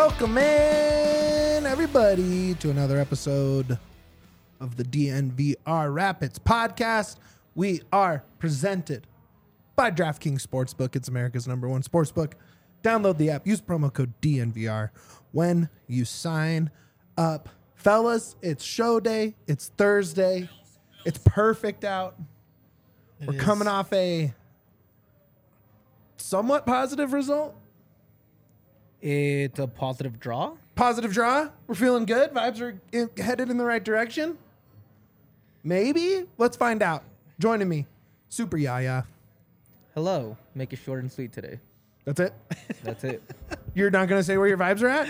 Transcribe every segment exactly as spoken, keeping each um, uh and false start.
Welcome in, everybody, to another episode of the D N V R Rapids podcast. We are presented by DraftKings Sportsbook. It's America's number one sportsbook. Download the app. Use promo code D N V R when you sign up. Fellas, it's show day. It's Thursday. It's perfect out. It We're is. coming off a somewhat positive result. It's a positive draw. Positive draw. We're feeling good. Vibes are in, headed in the right direction. Maybe. Let's find out. Joining me, Super Yaya. Hello. Make it short and sweet today. That's it. That's it. You're not gonna say where your vibes are at?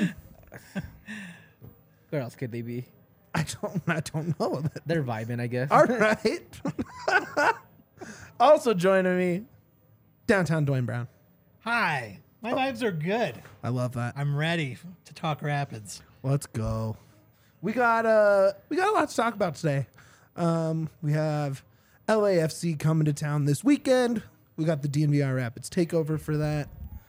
Where else could they be? I don't. I don't know. They're vibing, I guess. All right. Also joining me, downtown Dwayne Brown. Hi. My vibes are good. I love that. I'm ready to talk Rapids. Let's go. We got uh we got a lot to talk about today. Um, we have L A F C coming to town this weekend. We got the D N V R Rapids takeover for that.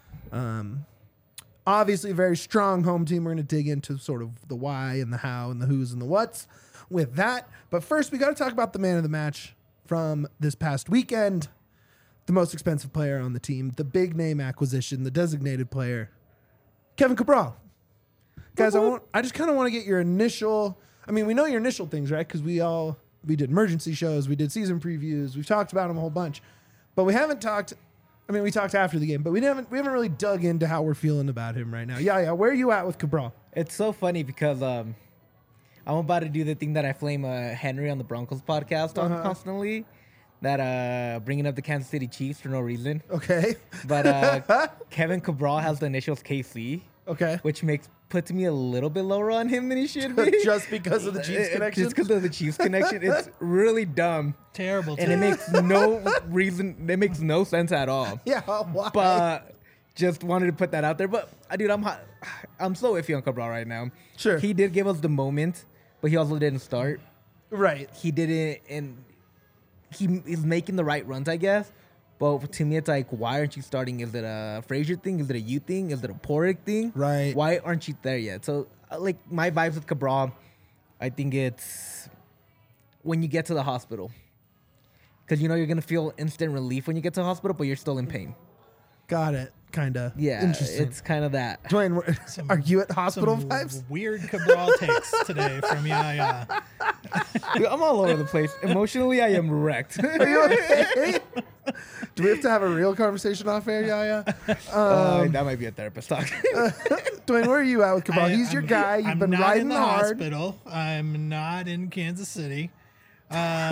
Um, obviously a very strong home team. We're going to dig into sort of the why and the how and the who's and the what's with that. But first, we got to talk about the man of the match from this past weekend. The most expensive player on the team, the big name acquisition, the designated player, Kevin Cabral. Guys, I want I just kind of want to get your initial, I mean, we know your initial things, right? Because we all, we did emergency shows, we did season previews, we've talked about them a whole bunch. But we haven't talked, I mean, we talked after the game, but we haven't we haven't really dug into how we're feeling about him right now. Yeah, yeah, where are you at with Cabral? It's so funny because um, I'm about to do the thing that I flame uh, Henry on the Broncos podcast on Uh-huh. constantly. That uh, bringing up the Kansas City Chiefs for no reason. Okay. But uh, Kevin Cabral has the initials K C, Okay. which makes puts me a little bit lower on him than he should be. Just because of the Chiefs Uh, connection? Just because of the Chiefs connection. It's really dumb. Terrible. And it makes no reason, it makes no sense at all. Yeah, why? But just wanted to put that out there. But uh, dude, I'm hot. I'm so iffy on Cabral right now. Sure. He did give us the moment, but he also didn't start. Right. He didn't, and he is making the right runs, I guess. But to me, it's like, why aren't you starting? Is it a Frazier thing? Is it a you thing? Is it a Porik thing? Right. Why aren't you there yet? So, uh, like, my vibes with Cabral, I think it's when you get to the hospital. Because you know you're going to feel instant relief when you get to the hospital, but you're still in pain. Got it. Kind of. Yeah, Interesting. it's kind of that. Dwayne, where- Some- are you at hospital Some vibes? weird Cabral takes today from Yaya. Dude, I'm all over the place. Emotionally, I am wrecked. Are you okay? Do we have to have a real conversation off air, Yaya? Uh, that might be a therapist talk. Dwayne, where are you at with Cabral? I- He's your I'm- guy. You've I'm been not riding in the hard. hospital. I'm not in Kansas City. Uh,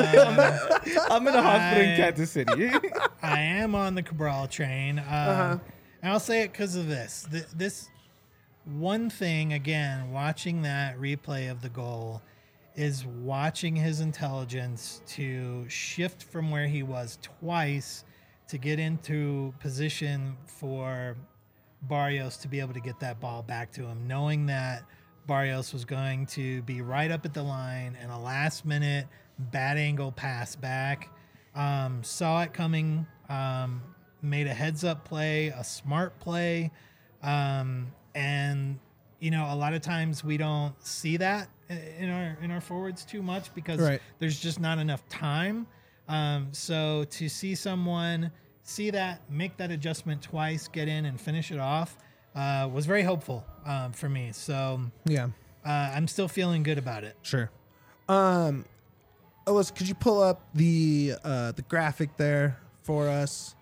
I'm in a hospital in I- Kansas City. I am on the Cabral train. Uh, Uh-huh. And I'll say it because of this. Th- this one thing, again, watching that replay of the goal is watching his intelligence to shift from where he was twice to get into position for Barrios to be able to get that ball back to him, knowing that Barrios was going to be right up at the line and a last minute bad angle pass back. Um, saw it coming, um, made a heads up play, a smart play. Um, and, you know, a lot of times we don't see that in our, in our forwards too much because Right. there's just not enough time. Um, so to see someone see that, make that adjustment twice, get in and finish it off, uh, was very hopeful um, for me. So Yeah, uh, I'm still feeling good about it. sure. Um, Alyssa, could you pull up the uh, the graphic there for us?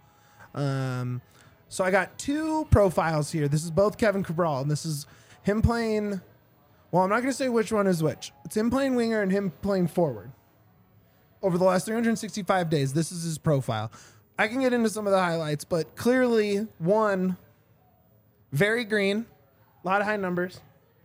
Um, so I got two profiles here. This is both Kevin Cabral, and this is him playing. Well, I'm not going to say which one is which. It's him playing winger and him playing forward. Over the last three hundred sixty-five days, this is his profile. I can get into some of the highlights, but clearly, one, very green, a lot of high numbers.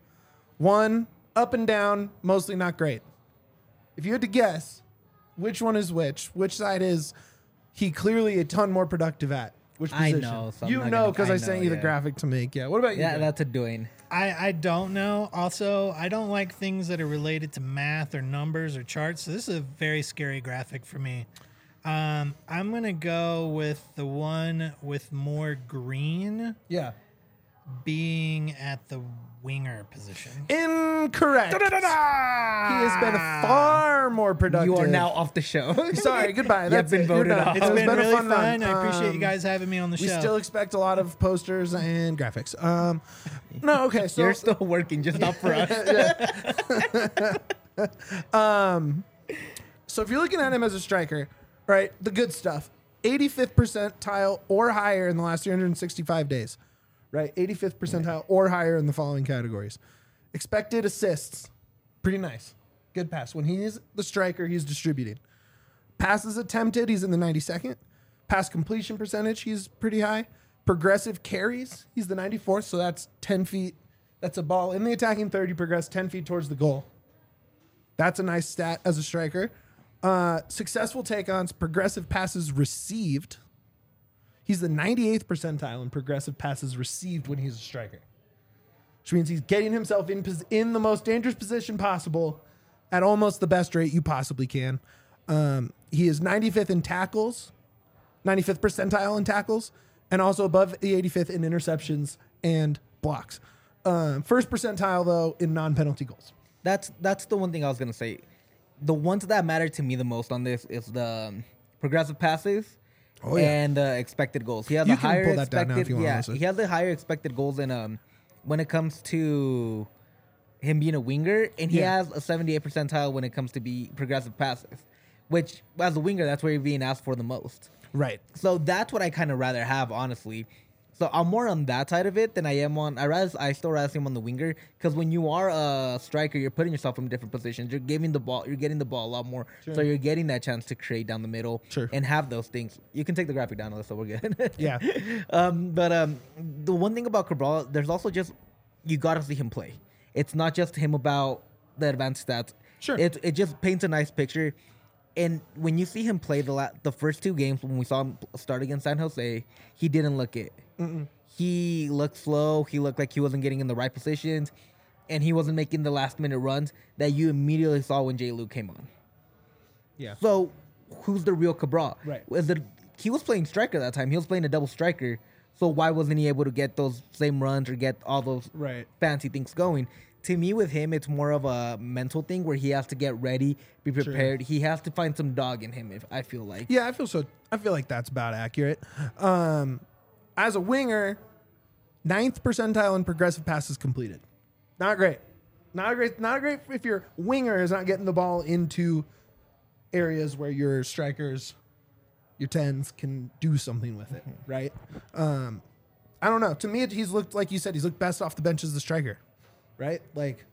One, up and down, mostly not great. If you had to guess which one is which, which side is he clearly a ton more productive at? Which I position? know, so I'm you not know gonna- because I, I sent know, you the yeah. graphic to make. Yeah. What about you? Yeah, Jay? that's a doing. I, I don't know. Also, I don't like things that are related to math or numbers or charts. So this is a very scary graphic for me. Um, I'm going to go with the one with more green. yeah. being at the winger position. Incorrect. He has been far more productive. You are now off the show. Sorry, goodbye. You That's have been it. You're voted done. off. It's It's been, been a really fun fun. run. I appreciate Um, you guys having me on the We show. still expect a lot of posters and graphics. Um, no, okay. So You're still working, just not for us. So if you're looking at him as a striker, right, the good stuff, eighty-fifth percentile or higher in the last three hundred sixty-five days, right? eighty-fifth percentile or higher in the following categories. Expected assists, pretty nice. Good pass. When he's the striker, he's distributing. Passes attempted, he's in the ninety-second. Pass completion percentage, he's pretty high. Progressive carries, he's the ninety-fourth, so that's ten feet. That's a ball in the attacking third, you progress ten feet towards the goal. That's a nice stat as a striker. Uh, successful take-ons, progressive passes received. He's the ninety-eighth percentile in progressive passes received when he's a striker, which means he's getting himself in pos- in the most dangerous position possible at almost the best rate you possibly can. Um, he is ninety-fifth in tackles, ninety-fifth percentile in tackles, and also above the eighty-fifth in interceptions and blocks. Um, first percentile, though, in non-penalty goals. That's that's the one thing I was gonna say. The ones that matter to me the most on this is the um, progressive passes Oh, yeah. and uh, expected goals. He has You a can higher pull that down expected. now if you want, yeah, honestly. he has the higher expected goals than um when it comes to him being a winger, and he Yeah. has a seventy-eight percentile when it comes to be progressive passes, which as a winger that's where you're being asked for the most. Right. So that's what I kind of rather have, honestly. So I'm more on that side of it than I am on. I rather I still rather see him on the winger, because when you are a striker, you're putting yourself in different positions. You're giving the ball, you're getting the ball a lot more, Sure. so you're getting that chance to create down the middle Sure. and have those things. You can take the graphic down, so we're good. Yeah. Um, but um, the one thing about Cabral, there's also just you gotta see him play. It's not just him about the advanced stats. Sure. It it just paints a nice picture. And when you see him play the la- the first two games, when we saw him start against San Jose, he didn't look it. Mm-mm. He looked slow. He looked like he wasn't getting in the right positions, and he wasn't making the last minute runs that you immediately saw when Jay Luke came on. Yeah. So, who's the real Cabral? Right. Was it, he was playing striker that time. He was playing a double striker. So why wasn't he able to get those same runs or get all those Right. fancy things going? To me, with him, it's more of a mental thing where he has to get ready, be prepared. He has to find some dog in him. If I feel like, Yeah, I feel so. I feel like that's about accurate. Um, as a winger, ninth percentile in progressive passes completed. Not great. Not great. Not great if your winger is not getting the ball into areas where your strikers, your tens, can do something with it. Right. Um, I don't know. To me, he's looked like you said. He's looked best off the bench as the striker. Right. Like,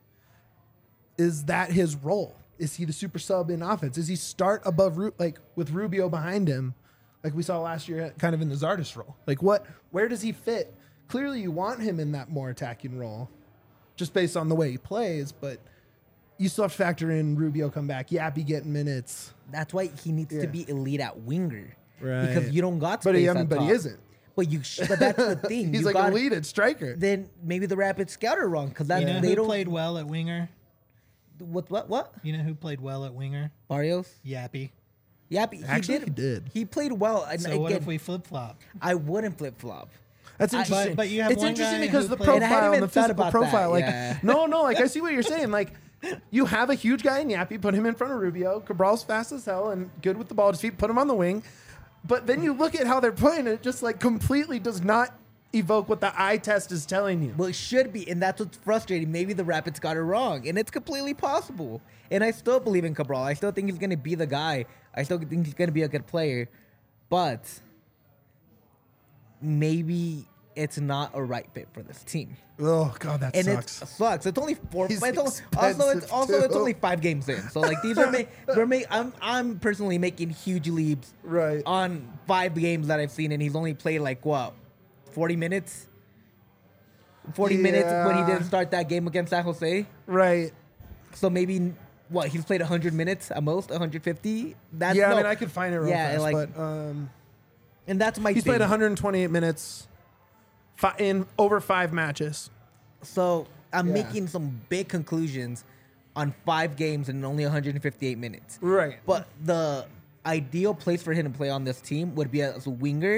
is that his role? Is he the super sub in offense? Does he start above Ru- like with Rubio behind him, like we saw last year, kind of in the Zardes role? Like, what? Where does he fit? Clearly, you want him in that more attacking role, just based on the way he plays. But you still have to factor in Rubio come back, Yappy getting minutes. that's why he needs Yeah. to be elite at winger, Right. because you don't got But space he, I at mean, but he top. isn't. But you, sh- but that's the thing. He's you like got, elite at striker. Then maybe the Rapids scout are wrong, because that You know they who don't. played well at winger? What what what? You know who played well at winger? Barrios. Yappy. Yep, he Actually, did. he did. He played well. And So again, what if we flip flop? I wouldn't flip flop. That's I- interesting. But- but you have it's one interesting guy because who the played- And I hadn't profile and even the thought physical about that, profile, like yeah. no, no, like I see what you're saying. Like you have a huge guy in Yappy, put him in front of Rubio. Cabral's fast as hell and good with the ball at his feet. Put him on the wing. But then you look at how they're playing, and it just like completely does not evoke what the eye test is telling you. Well, it should be, and that's what's frustrating. Maybe the Rapids got it wrong, and it's completely possible. And I still believe in Cabral. I still think he's going to be the guy. I still think he's going to be a good player, but maybe it's not a right fit for this team. Oh god, that And sucks. it sucks. It's only four. He's It's only, also, it's expensive, also it's too. only five games in. So like these are, ma- we're ma- I'm I'm personally making huge leaps Right. on five games that I've seen, and he's only played like what, forty minutes. Forty minutes when he Yeah. didn't start that game against San Jose. Right. So maybe what, he's played one hundred minutes at most, one hundred fifty. That's Yeah, no- I mean I could find it real Yeah, fast, like- but um, and that's my. he's thing. played one hundred twenty-eight minutes fi- in over five matches. So I'm Yeah. making some big conclusions on five games and only one hundred fifty-eight minutes. Right. But the ideal place for him to play on this team would be as a winger,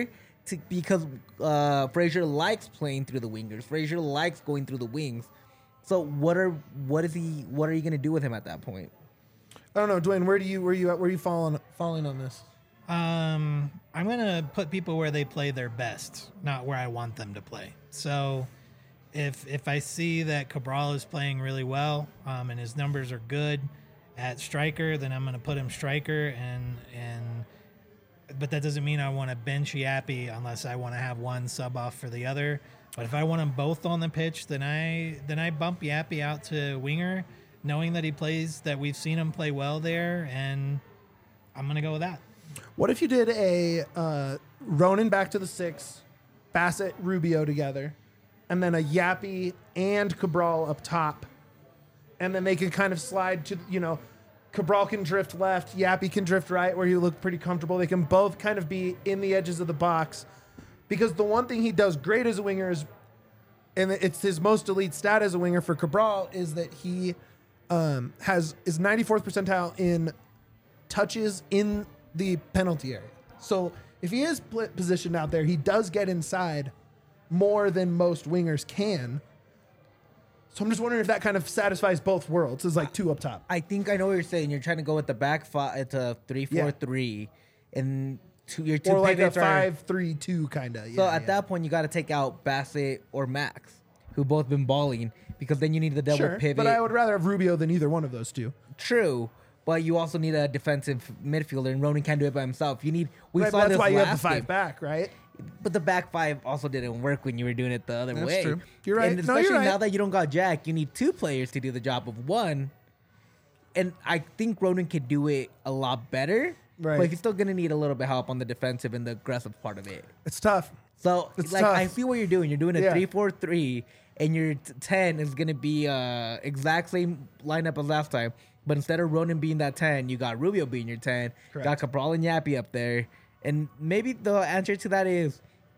to, because uh, Frazier likes playing through the wingers. Frazier likes going through the wings. So what are what is he? What are you gonna do with him at that point? I don't know, Dwayne. Where do you where you at? Where are you falling falling on this? Um, I'm gonna put people where they play their best, not where I want them to play. So, if if I see that Cabral is playing really well, um, and his numbers are good at striker, then I'm gonna put him striker, and and but that doesn't mean I want to bench Yappy unless I want to have one sub off for the other. But if I want them both on the pitch, then I then I bump Yappy out to winger, knowing that he plays, that we've seen him play well there, and I'm gonna go with that. What if you did a uh, Ronan back to the six, Bassett, Rubio together, and then a Yappy and Cabral up top, and then they can kind of slide to, you know, Cabral can drift left, Yappy can drift right, where you look pretty comfortable. They can both kind of be in the edges of the box, because the one thing he does great as a winger is, and it's his most elite stat as a winger for Cabral, is that he um, has is ninety-fourth percentile in touches in the penalty area. So if he is pl- positioned out there, he does get inside more than most wingers can. So I'm just wondering if that kind of satisfies both worlds. It's like two up top. I think I know what you're saying. You're trying to go with the back five. It's a three four three, and two, your two Or like a pivots are. five three two kind of. So at that point, you got to take out Bassett or Max, who both been balling, because then you need the double sure, pivot. but I would rather have Rubio than either one of those two. True, but you also need a defensive midfielder, and Ronan can't do it by himself. You need. We Right, saw but that's this why you have the last five game. back, right? But the back five also didn't work when you were doing it the other That's way. true. You're right. And No, especially you're right. now that you don't got Jack, you need two players to do the job of one. And I think Ronan could do it a lot better. Right. But he's still gonna need a little bit of help on the defensive and the aggressive part of it. It's tough. So It's like tough. I see what you're doing. You're doing a Yeah. three four three, and your t- ten is gonna be uh exact same lineup as last time. But instead of Ronan being that ten, you got Rubio being your ten. Correct. Got Cabral and Yappy up there. And maybe the answer to that is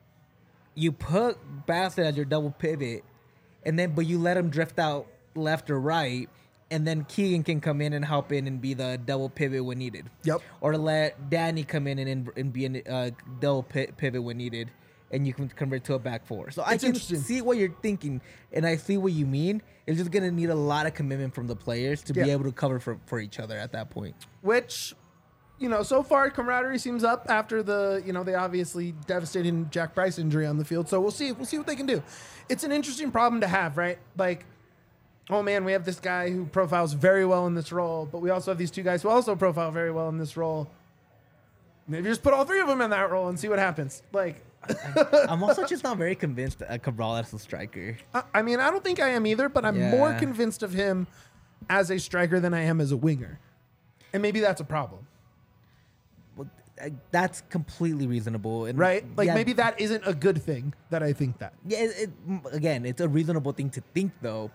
you put Bassett as your double pivot, and then but you let him drift out left or right, and then Keegan can come in and help in and be the double pivot when needed. Yep. Or let Danny come in and and be a uh, double pi- pivot when needed, and you can convert to a back four. So I It's can interesting. see what you're thinking, and I see what you mean. It's just gonna need a lot of commitment from the players to Yeah. be able to cover for, for each other at that point. Which, you know, so far camaraderie seems up after the, you know, the obviously devastating Jack Bryce injury on the field. So we'll see. We'll see what they can do. It's an interesting problem to have, right? Like, oh man, we have this guy who profiles very well in this role, but we also have these two guys who also profile very well in this role. Maybe just put all three of them in that role and see what happens. Like, I'm also just not very convinced that Cabral as a striker. I, I mean, I don't think I am either, but I'm Yeah. more convinced of him as a striker than I am as a winger. And maybe that's a problem. Well, uh, that's completely reasonable, and Right? Like yeah, maybe that isn't a good thing that I think that. Yeah, it, it, m- again, it's a reasonable thing to think, though.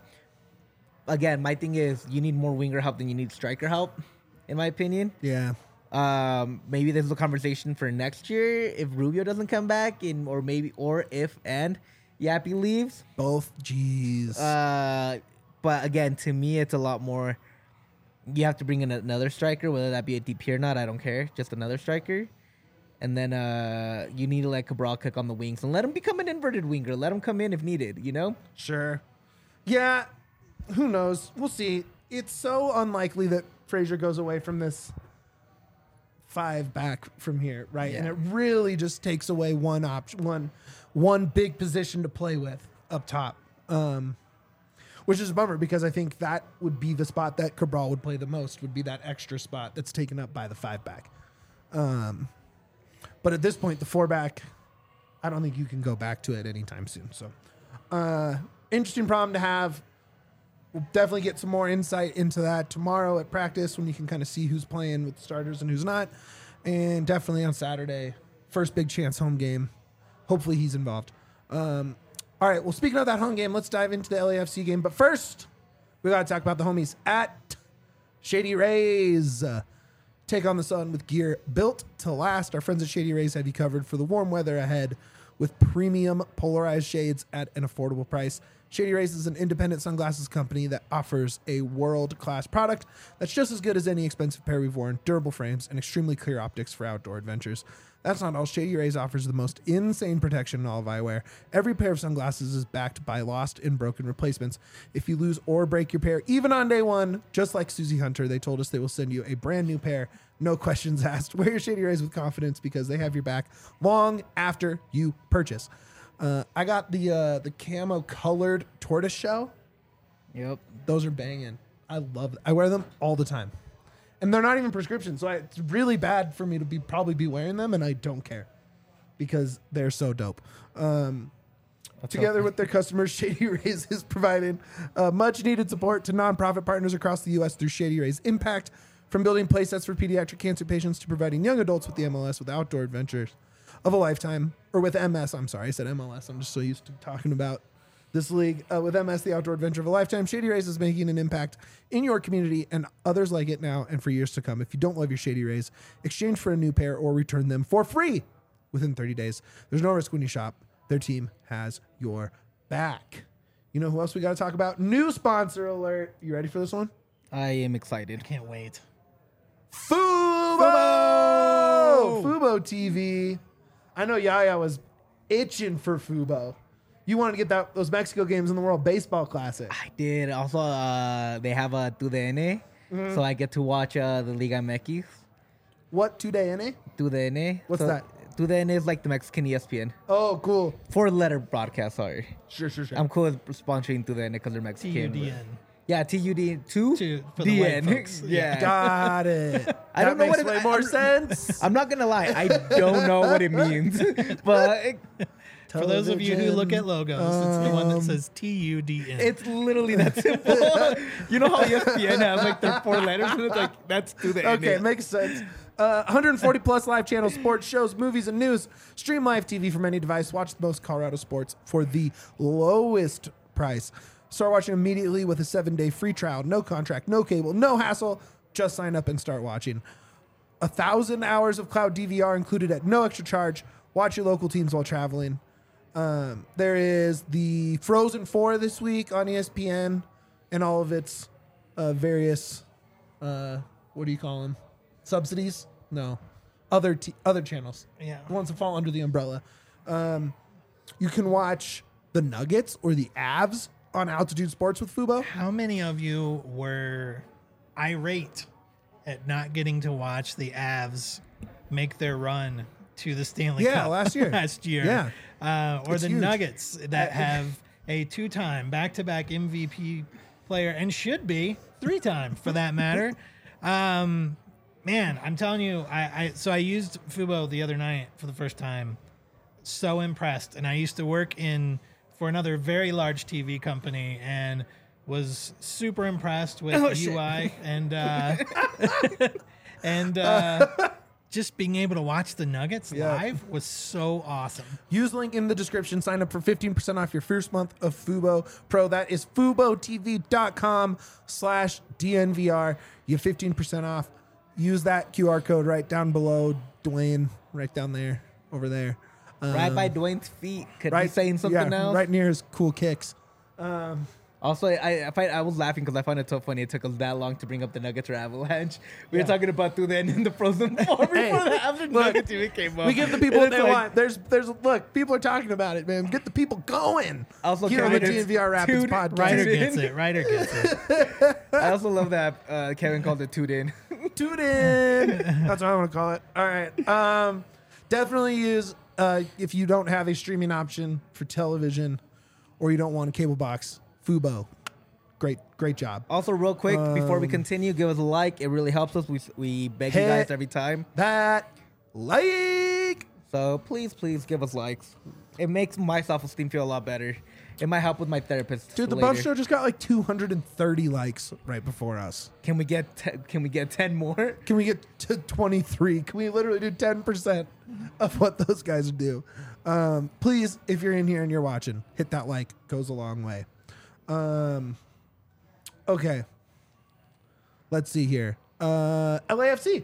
Again, my thing is you need more winger help than you need striker help, in my opinion. Yeah. Um, maybe there's a conversation for next year if Rubio doesn't come back, in or maybe or if and Yappy leaves. Both. Jeez. Uh, but again, to me, it's a lot more. You have to bring in another striker, whether that be a D P or not. I don't care, just another striker. And then uh, you need to let Cabral cook on the wings and let him become an inverted winger. Let him come in if needed. You know. Sure. Yeah. Who knows? We'll see. It's so unlikely that Frazier goes away from this five back from here, right? And Yeah. it really just takes away one option, one one big position to play with up top. Um, which is a bummer because I think that would be the spot that Cabral would play the most, would be that extra spot that's taken up by the five back. Um, but at this point, the four back, I don't think you can go back to it anytime soon. So, uh, interesting problem to have. We'll definitely get some more insight into that tomorrow at practice when you can kind of see who's playing with the starters and who's not. And definitely on Saturday, first big chance home game. Hopefully he's involved. Um, all right, well, speaking of that home game, let's dive into the L A F C game. But first, we got to talk about the homies at Shady Rays. Uh, take on the sun with gear built to last. Our friends at Shady Rays have you covered for the warm weather ahead with premium polarized shades at an affordable price. Shady Rays is an independent sunglasses company that offers a world-class product that's just as good as any expensive pair we've worn, durable frames, and extremely clear optics for outdoor adventures. That's not all. Shady Rays offers the most insane protection in all of eyewear. Every pair of sunglasses is backed by lost and broken replacements. If you lose or break your pair, even on day one, just like Susie Hunter, they told us they will send you a brand new pair. No questions asked. Wear your Shady Rays with confidence because they have your back long after you purchase. Uh, I got the uh, the camo colored tortoise shell. Yep. Those are banging. I love them. I wear them all the time. And they're not even prescription, so I, it's really bad for me to be probably be wearing them, and I don't care because they're so dope. Um, together with their customers, Shady Rays is providing uh, much-needed support to nonprofit partners across the U S through Shady Rays Impact, from building playsets for pediatric cancer patients to providing young adults with the M L S with outdoor adventures of a lifetime, or with M S. I'm sorry, I said M L S. I'm just so used to talking about this league. Uh, with M S, the outdoor adventure of a lifetime, Shady Rays is making an impact in your community and others like it now and for years to come. If you don't love your Shady Rays, exchange for a new pair or return them for free within thirty days. There's no risk when you shop. Their team has your back. You know who else we got to talk about? New sponsor alert. You ready for this one? I am excited. Can't wait. Fubo! Fubo! Fubo T V. I know Yaya was itching for Fubo. You wanted to get that those Mexico games in the World Baseball Classic. I did. Also, uh, they have a Tu D N, mm-hmm. so I get to watch uh, the Liga M X. What, two day N A? Tu D N. What's so, that? Tu D N is like the Mexican E S P N. Oh, cool. Four letter broadcast, sorry. Sure, sure, sure. I'm cool with sponsoring Tu D N because they're Mexican. T U D N. Yeah, T U D two Two for the white D N. folks. Yeah. Got it. I don't That know what makes it- way more I'm- sense. I'm not gonna lie, I don't know what it means, but it, For those of you who look at Television. logos, it's the one that Um, says T U D N. it's literally that simple. You know how E S P N has like their four letters, and it's like that's Tu D N. Okay, makes sense. Uh, one hundred forty plus live channels, sports, shows, movies, and news. Stream live T V from any device. Watch the most Colorado sports for the lowest price. Start watching immediately with a seven-day free trial. No contract, no cable, no hassle. Just sign up and start watching. A thousand hours of cloud D V R included at no extra charge. Watch your local teams while traveling. Um, there is the Frozen four this week on E S P N and all of its uh, various, uh, what do you call them? Subsidies? No. Other t- other channels. Yeah. The ones that fall under the umbrella. Um, you can watch the Nuggets or the Avs on Altitude Sports with Fubo. How many of you were irate at not getting to watch the Avs make their run to the Stanley Yeah, Cup last year. last year? Yeah. Uh, or It's the huge. Nuggets that have a two-time back-to-back M V P player and should be three-time for that matter. Um, man, I'm telling you, I, I so I used Fubo the other night for the first time. So impressed, and I used to work in for another very large T V company and was super impressed with Oh, the shit. U I and uh, and uh, just being able to watch the Nuggets Yeah. live was so awesome. Use link in the description. Sign up for fifteen percent off your first month of Fubo Pro. That is FuboTV.com slash DNVR. You get fifteen percent off. Use that Q R code right down below Dwayne, right down there, over there. Um, right by Dwayne's feet. Could right, be saying something yeah, else. right near his cool kicks. Um, Also, I I, find, I was laughing because I find it so funny. It took us that long to bring up the Nuggets or Avalanche. We Yeah. were talking about Tu D N in the Frozen Four before Hey, the after look, Nuggets even came up. we give the people And what it's they like, want. There's, there's, look, people are talking about it, man. Get the people going. Also, Here on the Kevin, D N V R Rapids dude, podcast. Ryder Tune in. gets it. Ryder gets it. I also love that uh, Kevin called it Tu D N. Tune in. That's what I want to call it. All right. Um, definitely use uh, if you don't have a streaming option for television or you don't want a cable box. Fubo. Great, great job. Also, real quick, before we Um, continue, give us a like. It really helps us. We, we beg you Hit guys every time. That like. So please, please give us likes. It makes my self-esteem feel a lot better. It might help with my therapist. Dude, the later. Bump Show just got like two hundred thirty likes right before us. Can we get te- can we get ten more? Can we get to twenty-three? Can we literally do ten percent of what those guys do? Um, please, if you're in here and you're watching, hit that like. Goes a long way. Um, okay. Let's see here. Uh, L A F C.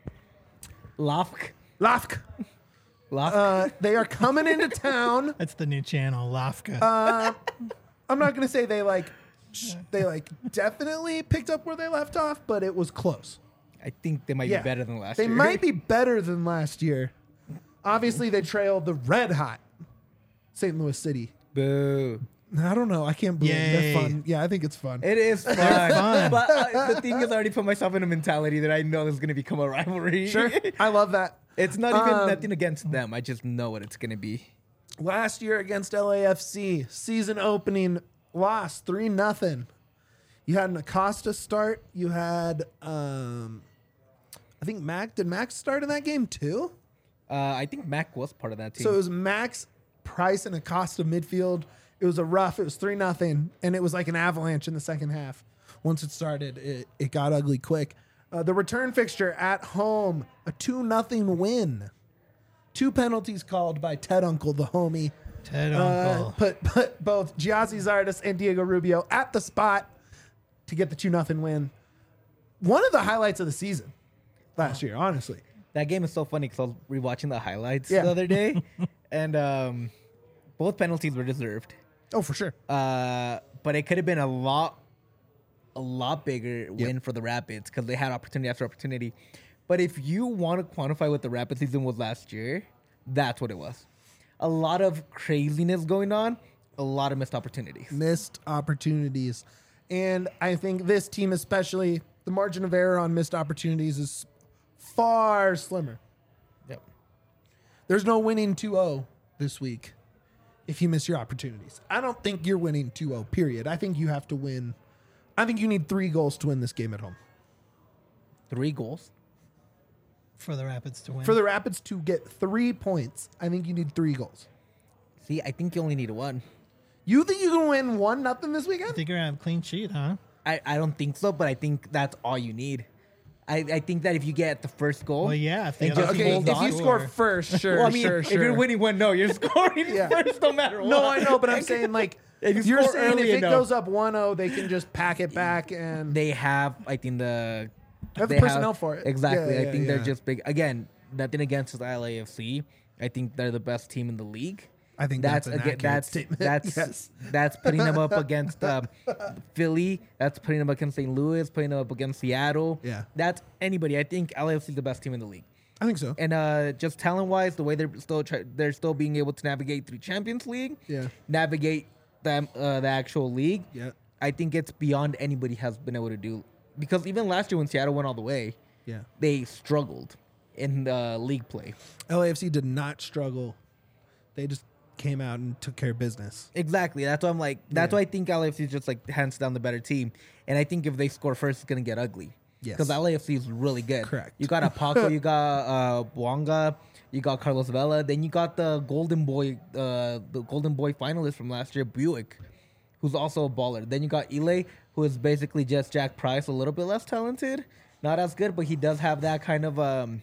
Lafk. Lafk. Lafk. Uh, they are coming into town. That's the new channel, Lafka. Uh, I'm not going to say they like, sh- they like definitely picked up where they left off, but it was close. I think they might Yeah. be better than last They year. might be better than last year. Obviously, they trailed the red hot Saint Louis City. Boo. I don't know. I can't believe Yay. they're fun. Yeah, I think it's fun. It is fun. fun. But uh, the thing is, I already put myself in a mentality that I know is going to become a rivalry. Sure. I love that. It's not even Um, nothing against them. I just know what it's going to be. Last year against L A F C, season opening loss three nothing. You had an Acosta start. You had, um, I think Mac. Did Max start in that game too? Uh, I think Mac was part of that team. So it was Max, Price, and Acosta midfield. It was a rough. It was three nothing, and it was like an avalanche in the second half. Once it started, it, it got ugly quick. Uh, the return fixture at home, a two nothing win. Two penalties called by Ted Uncle, the homie. Ted Uh, Uncle. put put both Giazzi Zardes and Diego Rubio at the spot to get the two nothing win. One of the highlights of the season last year, honestly. That game is so funny because I was rewatching the highlights Yeah. the other day, and um, both penalties were deserved. Oh, for sure. Uh, but it could have been a lot, a lot bigger win for the Rapids because they had opportunity after opportunity. But if you want to quantify what the Rapid season was last year, that's what it was. A lot of craziness going on, a lot of missed opportunities. Missed opportunities. And I think this team, especially, the margin of error on missed opportunities is far slimmer. Yep. There's no winning two oh this week if you miss your opportunities. I don't think you're winning two oh, period. I think you have to win. I think you need three goals to win this game at home. Three goals. For the Rapids to win. For the Rapids to get three points, I think you need three goals. See, I think you only need one. You think you can win one nothing this I weekend? think you're going to have a clean sheet, huh? I, I don't think so, but I think that's all you need. I, I think that if you get the first goal, Well, yeah. If the And other just team Okay, hold if on. you score first, sure, well, I mean, sure, if sure. you're winning one, no, you're scoring Yeah. first no matter what. No, I know, but I'm saying like If you you're score saying if early it enough. goes up one oh, they can just pack it back and They have, I think, the They have the they personnel for it. Exactly. Yeah, I yeah, think yeah. they're just big. Again, nothing against the L A F C. I think they're the best team in the league. I think that's, an aga- accurate that's statement. that's Yes. that's putting them up against um, Philly. That's putting them against Saint Louis. Putting them up against Seattle. Yeah. That's anybody. I think L A F C is the best team in the league. I think so. And uh, just talent wise, the way they're still try- they're still being able to navigate through Champions League. Yeah. Navigate them uh, the actual league. Yeah. I think it's beyond anybody has been able to do. Because even last year when Seattle went all the way, Yeah. they struggled in the league play. L A F C did not struggle. They just came out and took care of business. Exactly. That's why I'm like. That's Yeah. why I think L A F C is just like hands down the better team. And I think if they score first, it's gonna get ugly. Yes. Because L A F C is really good. Correct. You got Apaco, you got uh, Bwanga, you got Carlos Vela, then you got the Golden Boy, uh, the Golden Boy finalist from last year, Buick, who's also a baller. Then you got Ile, who is basically just Jack Price, a little bit less talented, not as good, but he does have that kind of um,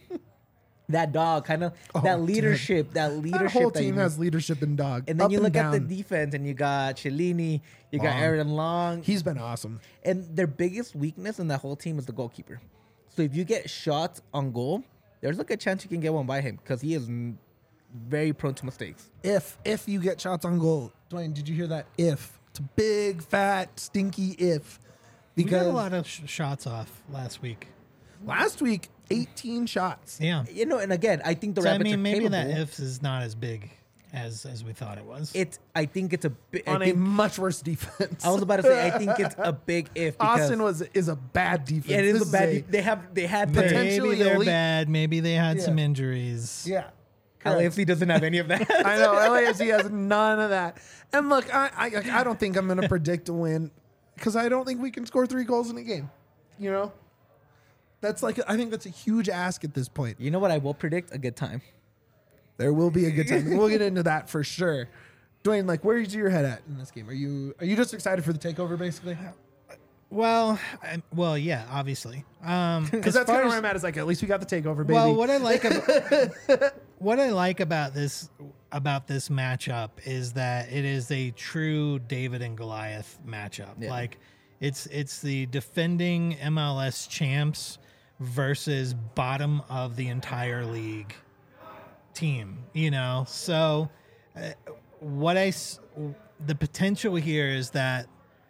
that dog, kind of Oh, that dude. leadership, that leadership. That whole that team you- has leadership in dog. and then Up you look at the down. defense, and you got Cellini, you got Long. Aaron Long. He's been awesome. And their biggest weakness in that whole team is the goalkeeper. So if you get shots on goal, there's like a chance you can get one by him because he is m- very prone to mistakes. If if you get shots on goal, Dwayne, did you hear that? If it's a big fat stinky if, We got because a lot of sh- shots off last week. last week eighteen shots. Yeah. You know, and again, I think the So, I Rapids mean, are maybe capable. that ifs is not as big as as we thought it was. It's. I think it's a. Bi- I, On a think, much worse defense. I was about to say. I think it's a big if. Because Austin was is a bad defense. Yeah, it is This a bad. de- they have. They had Potential- the potentially maybe they're elite. bad. Maybe they had Yeah. some injuries. yeah. L A F C doesn't have any of that. I know L A F C has none of that. And look, I I, I don't think I'm going to predict a win because I don't think we can score three goals in a game. You know, that's like I think that's a huge ask at this point. You know what? I will predict a good time. There will be a good time. We'll get into that for sure. Dwayne, like, where's your head at in this game? Are you are you just excited for the takeover, basically? Well, I, well, yeah, obviously. Um, Because as that's far kind of as- where I'm at. Is like at least we got the takeover, baby. Well, what I like about what I like about this about this matchup is that it is a true David and Goliath matchup. Yeah. Like it's it's the defending M L S champs versus bottom of the entire league team, you know. So uh, what I s- the potential here is that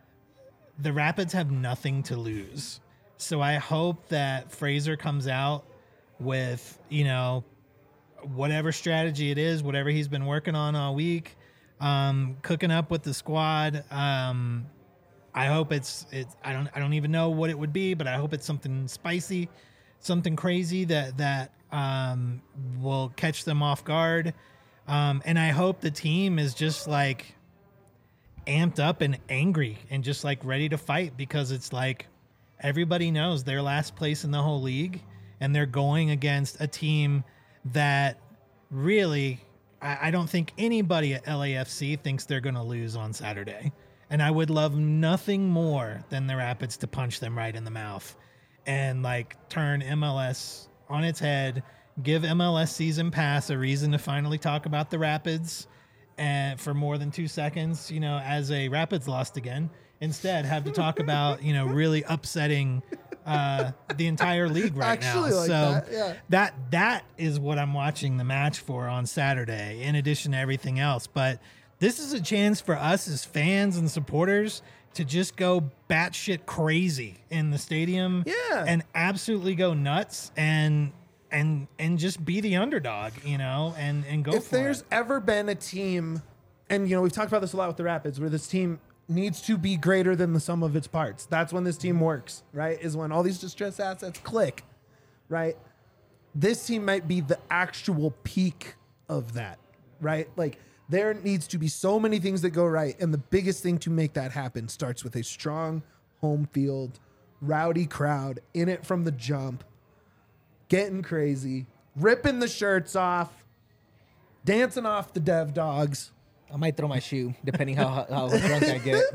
the Rapids have nothing to lose. So I hope that Fraser comes out with, you know, whatever strategy it is, whatever he's been working on all week, um, cooking up with the squad. Um, I hope it's it's I don't I don't even know what it would be, but I hope it's something spicy, something crazy that that um, will catch them off guard. Um, and I hope the team is just like amped up and angry and just like ready to fight, because it's like everybody knows they're last place in the whole league and they're going against a team that really, I, I don't think anybody at L A F C thinks they're going to lose on Saturday. And I would love nothing more than the Rapids to punch them right in the mouth and like turn M L S on its head, give M L S Season Pass a reason to finally talk about the Rapids and for more than two seconds, you know, as a Rapids lost again. Instead, have to talk about, you know, really upsetting uh, the entire league right Actually now. like so that, yeah. that that is what I'm watching the match for on Saturday, in addition to everything else. But this is a chance for us as fans and supporters to just go batshit crazy in the stadium, Yeah. and absolutely go nuts and and and just be the underdog, you know, and and go If for there's it. ever been a team, and you know we've talked about this a lot with the Rapids, where this team needs to be greater than the sum of its parts. That's when this team works, right? Is when all these distressed assets click, right? This team might be the actual peak of that, right? Like there needs to be so many things that go right, and the biggest thing to make that happen starts with a strong home field, rowdy crowd in it from the jump, getting crazy, ripping the shirts off, dancing off the dev dogs. I might throw my shoe, depending how how drunk I get.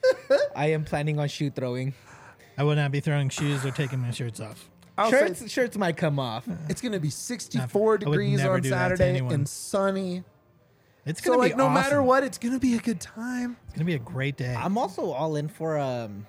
I am planning on shoe throwing. I would not be throwing shoes or taking my shirts off. I'll Shirts say shirts might come off. it's going to be sixty-four I would degrees never on do that to Saturday anyone. and sunny. It's So gonna like be no awesome. matter what, it's going to be a good time. It's gonna be a great day. I'm also all in for um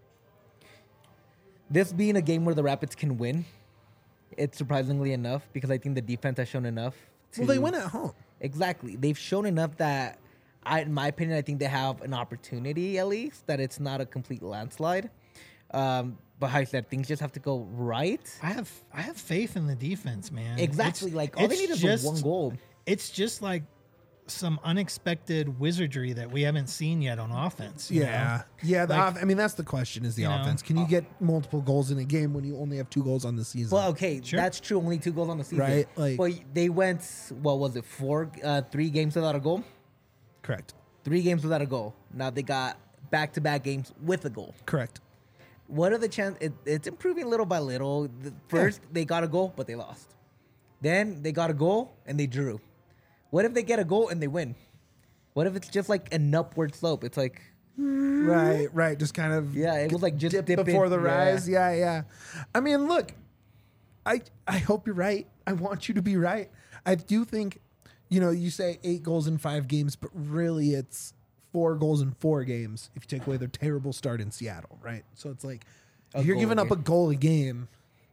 this being a game where the Rapids can win. It's surprisingly enough, because I think the defense has shown enough. To, Well, they win at home. Exactly. They've shown enough that, I, in my opinion, I think they have an opportunity at least, that it's not a complete landslide. Um, but how I said, things just have to go right. I have I have faith in the defense, man. Exactly. It's- like all they it's need is just, the one goal. It's just like some unexpected wizardry that we haven't seen yet on offense. you Yeah. know? Yeah. The Like, off- I mean, that's the question is the you know, offense. Can you get multiple goals in a game when you only have two goals on the season? Well, okay, Sure. that's true. Only two goals on the season. Right, like- but they went, what was it, four, uh, three games without a goal? Correct. Three games without a goal. Now they got back-to-back games with a goal. Correct. What are the chances? It, it's improving little by little. The first, they got a goal, but they lost. Then they got a goal, and they drew. What if they get a goal and they win? What if it's just like an upward slope? It's like, Right, right. Just kind of yeah, it was like just dip dip before in. the Yeah. rise. Yeah, yeah. I mean, look, I I hope you're right. I want you to be right. I do think, you know, you say eight goals in five games, but really it's four goals in four games if you take away their terrible start in Seattle, right? So it's like A if you're goal giving a up a game. goal a game,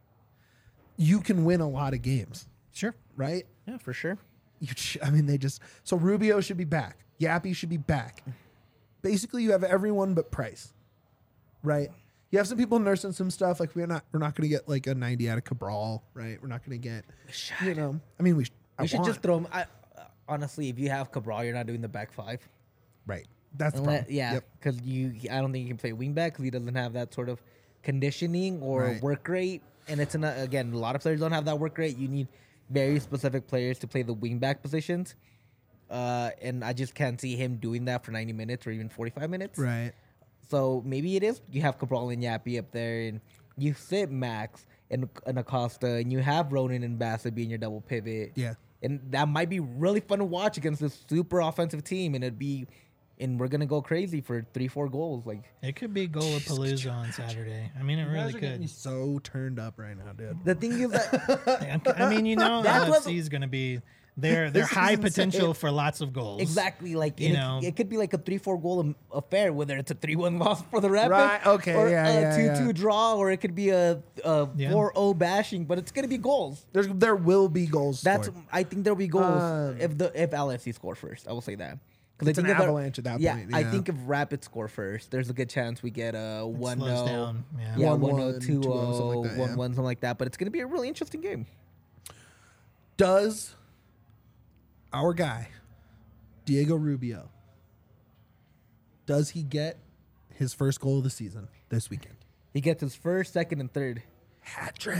you can win a lot of games, Sure. right? Yeah, for sure. You, sh- I mean, they just so Rubio should be back. Yappy should be back. Basically, you have everyone but Price, right? You have some people nursing some stuff. Like we're not, we're not going to get like a ninety out of Cabral, right? We're not going to get, you know. I mean, we, sh- I We should want- just throw him. I, uh, honestly, if you have Cabral, you're not doing the back five. right. That's the Unless, problem. yeah, Yep. because you, I don't think you can play wingback because he doesn't have that sort of conditioning or Right. work rate. And it's an, again, a lot of players don't have that work rate. You need very specific players to play the wingback positions. Uh, and I just can't see him doing that for ninety minutes or even forty-five minutes. Right. So maybe it is. You have Cabral and Yappy up there, and you sit Max and, and Acosta, and you have Ronan and Bassett being your double pivot. Yeah. And that might be really fun to watch against this super offensive team, and it'd be, and we're gonna go crazy for three, four goals. Like It could be Golapalooza on Saturday. I mean, it You really guys are getting me could. so turned up right now, dude. the thing is that I mean, you know, That's what- L F C is going to be their their This is high insane. potential for lots of goals. exactly like You and know. it, it could be like a three, four goal am- affair, whether it's a three, one loss for the Rapids, Right, okay, or yeah, a yeah, two, yeah. two draw, or it could be a, a Yeah. four, oh bashing, but it's gonna be goals. There's, there will be goals. That's scored. I think there'll be goals Um, if the if L F C score first. I will say that because It's I an think if the- avalanche at that yeah, point, I yeah. think if Rapids score first, there's a good chance we get a one slows no, down, yeah. yeah, one one one, no, two two oh, something oh, like that, one yeah. one, something like that. But it's gonna be a really interesting game. Does our guy, Diego Rubio, does he get his first goal of the season this weekend? He gets his first, second, and third. Hat trick.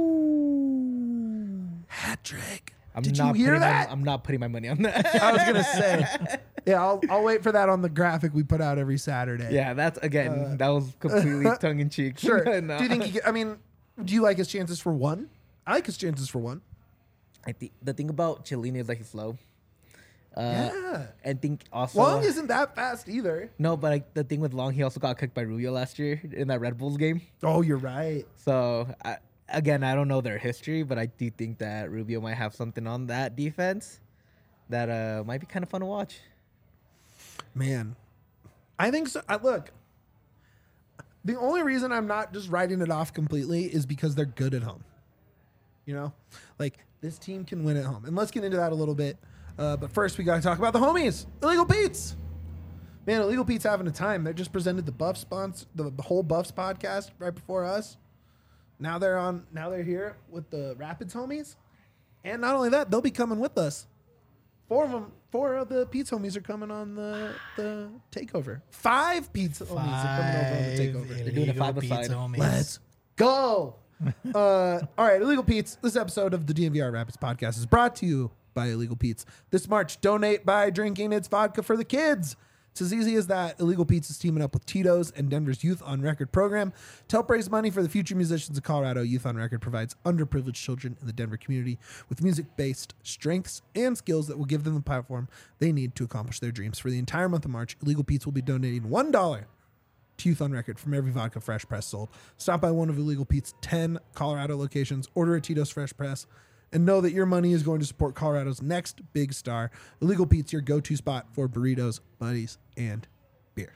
Hat trick. I'm Did not you hear putting that? My, I'm not putting my money on that. I was gonna say, yeah, I'll, I'll wait for that on the graphic we put out every Saturday. Yeah, that's again. Uh, that was completely tongue in cheek. Sure. No. Do you think he? Get, I mean, do you like his chances for one? I like his chances for one. I think the thing about Chiellini is that he's slow. Uh, Yeah. I think also Long isn't that fast either. no, but like, the thing with Long, he also got kicked by Rubio last year in that Red Bulls game. Oh, you're right. So I, again, I don't know their history, but I do think that Rubio might have something on that defense that uh, might be kind of fun to watch. Man, I think so. I, look, the only reason I'm not just writing it off completely is because they're good at home. You know, like this team can win at home, and let's get into that a little bit. Uh, but first, we got to talk about the homies, Illegal Pete's. Man, Illegal Pete's having a time. They just presented the Buffs sponsor, the, the whole Buffs podcast right before us. Now they're on. Now they're here with the Rapids homies, and not only that, they'll be coming with us. Four of them, four of the Pete's homies are coming on the the takeover. Five Pete's homies are coming over on the takeover. They're doing a illegal five-a-side. pizza homies. Let's go. uh, all right, Illegal Pete's. This episode of the D N V R Rapids podcast is brought to you by Illegal Pete's. This March, donate by drinking its vodka for the kids. It's as easy as that. Illegal Pete's is teaming up with Tito's and Denver's Youth on Record program to help raise money for the future musicians of Colorado. Youth on Record provides underprivileged children in the Denver community with music-based strengths and skills that will give them the platform they need to accomplish their dreams. For the entire month of March, Illegal Pete's will be donating one dollar to Youth on Record from every vodka fresh press sold. Stop by one of Illegal Pete's ten Colorado locations, order a Tito's Fresh Press, and know that your money is going to support Colorado's next big star. Illegal Pete's, your go-to spot for burritos, buddies, and beer.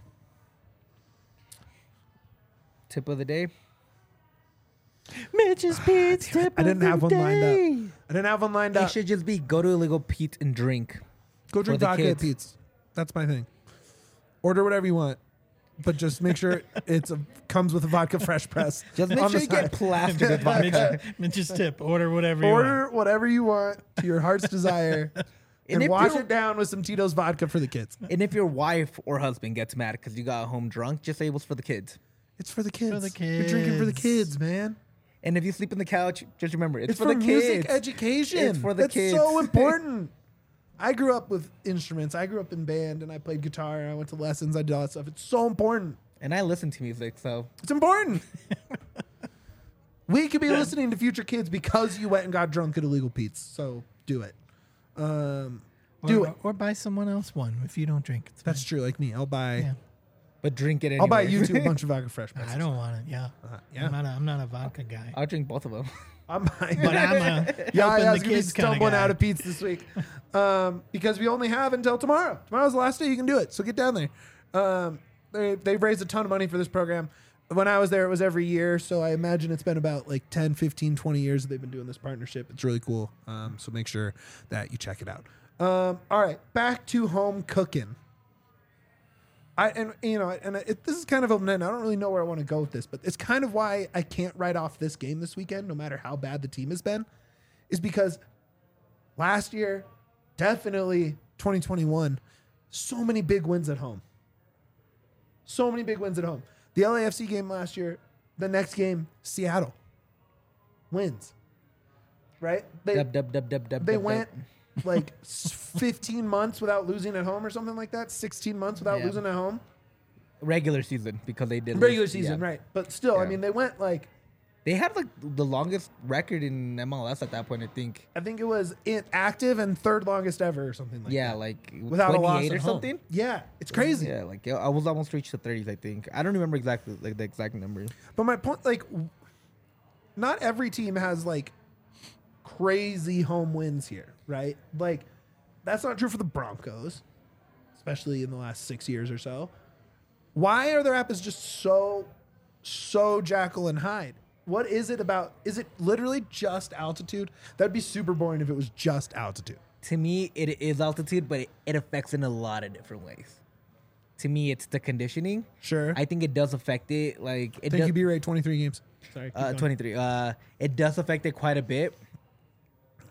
Tip of the day. Mitch's Pete's tip I didn't of have the one lined day. up. I didn't have one lined It up. should just be go to Illegal Pete and drink. Go drink for the vodka at kids. Pete's. That's my thing. Order whatever you want, but just make sure it's a, comes with a vodka fresh press. Just make on sure the you get side. plastered with vodka. Mitch, Mitch's tip. Order whatever you Order want. whatever you want to your heart's desire, and, And if wash you're- it down with some Tito's vodka for the kids. And if your wife or husband gets mad because you got home drunk, just say it was for the kids. It's for the kids. the You're drinking for the kids. kids, man. And if you sleep on the couch, just remember it's, It's for, for, the music kids. education. It's for the That's kids. so important. I grew up with instruments. I grew up in band, and I played guitar. And I went to lessons. I did all that stuff. It's so important. And I listen to music, so It's important. We could be listening to future kids because you went and got drunk at Illegal Pete's. So do it. Um, do or, it. Or buy someone else one if you don't drink. It's That's fine. true. Like me, I'll buy. Yeah. but drink it anyway. I'll buy you two a bunch of vodka fresh. I don't want it. Yeah. Uh, yeah. I'm not a, I'm not a vodka guy. I'll drink both of them. I'm buying. But I'm a Yeah, helping yeah, I the was gonna be kids kind of stumbling guy. out of Pete's this week um, because we only have until tomorrow. Tomorrow's the last day you can do it, so get down there. Um, they, they've raised a ton of money for this program. When I was there, it was every year, so I imagine it's been about like ten, fifteen, twenty years that they've been doing this partnership. It's really cool, um, so make sure that you check it out. Um, all right, back to home cooking. I and you know, and it, this is kind of open end. I don't really know where I want to go with this, but it's kind of why I can't write off this game this weekend, no matter how bad the team has been, is because last year, definitely twenty twenty-one, so many big wins at home. So many big wins at home. The L A F C game last year, the next game, Seattle wins. Right? They Dub, dub, dub, dub, dub, they dub, went dub. like s- fifteen months without losing at home or something like that. sixteen months without Yeah. losing at home. regular season because they did Regular lose- season, yeah. right. But still, I Yeah. mean, they went like, They had like the longest record in M L S at that point, I think. I think it was in active and third longest ever or something like yeah, that. like Without a loss twenty-eight at or home. something. Yeah, it's crazy. Yeah, like I was almost reached the thirties, I think. I don't remember exactly like the exact number. But my point, like, w- not every team has like crazy home wins here, right? Like, that's not true for the Broncos, especially in the last six years or so. Why are the Rapids just so, so Jekyll and Hyde? What is it about? Is it literally just altitude? That'd be super boring if it was just altitude. To me, it is altitude, but it, it affects in a lot of different ways. To me, it's the conditioning. Sure. I think it does affect it. Like it Thank does, you, B-Ray. twenty-three games. Sorry. keep uh, going. twenty-three. Uh, it does affect it quite a bit.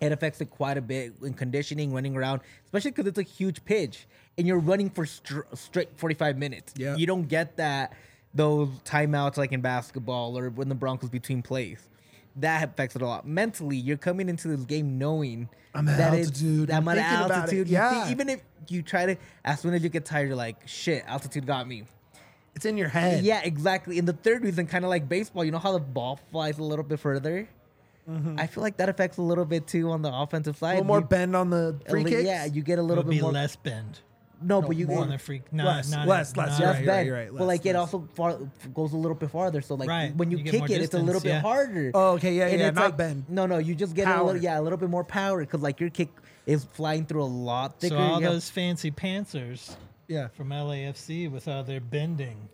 it affects it quite a bit in conditioning, running around, especially because it's a huge pitch and you're running for str- straight forty-five minutes. Yeah. You don't get that those timeouts like in basketball or when the Broncos between plays. That affects it a lot. Mentally, you're coming into this game knowing I'm at that it's altitude. that I'm much thinking about it. altitude. You Yeah. think- even if you try to, as soon as you get tired, you're like, shit, altitude got me. It's in your head. Yeah, exactly. And the third reason, kind of like baseball, you know how the ball flies a little bit further? I feel like that affects a little bit too on the offensive A side. little more You- bend on the a free li- kicks. Yeah, you get a It little would bit be more. less bend. no, but you More on get the freak. Not, Less, not less, not- less, less you're right, bend. you're right, but less, like it less. also far, goes a little bit farther. So like Right, when you, you get kick more it, it's a little distance, bit yeah. harder. Oh, okay, yeah, And yeah, it's not like- bend. No, no, you just get a Power. little, yeah, a little bit more power because like your kick is flying through a lot thicker. So all You have- those fancy pantsers Yeah. from L A F C with all their bending.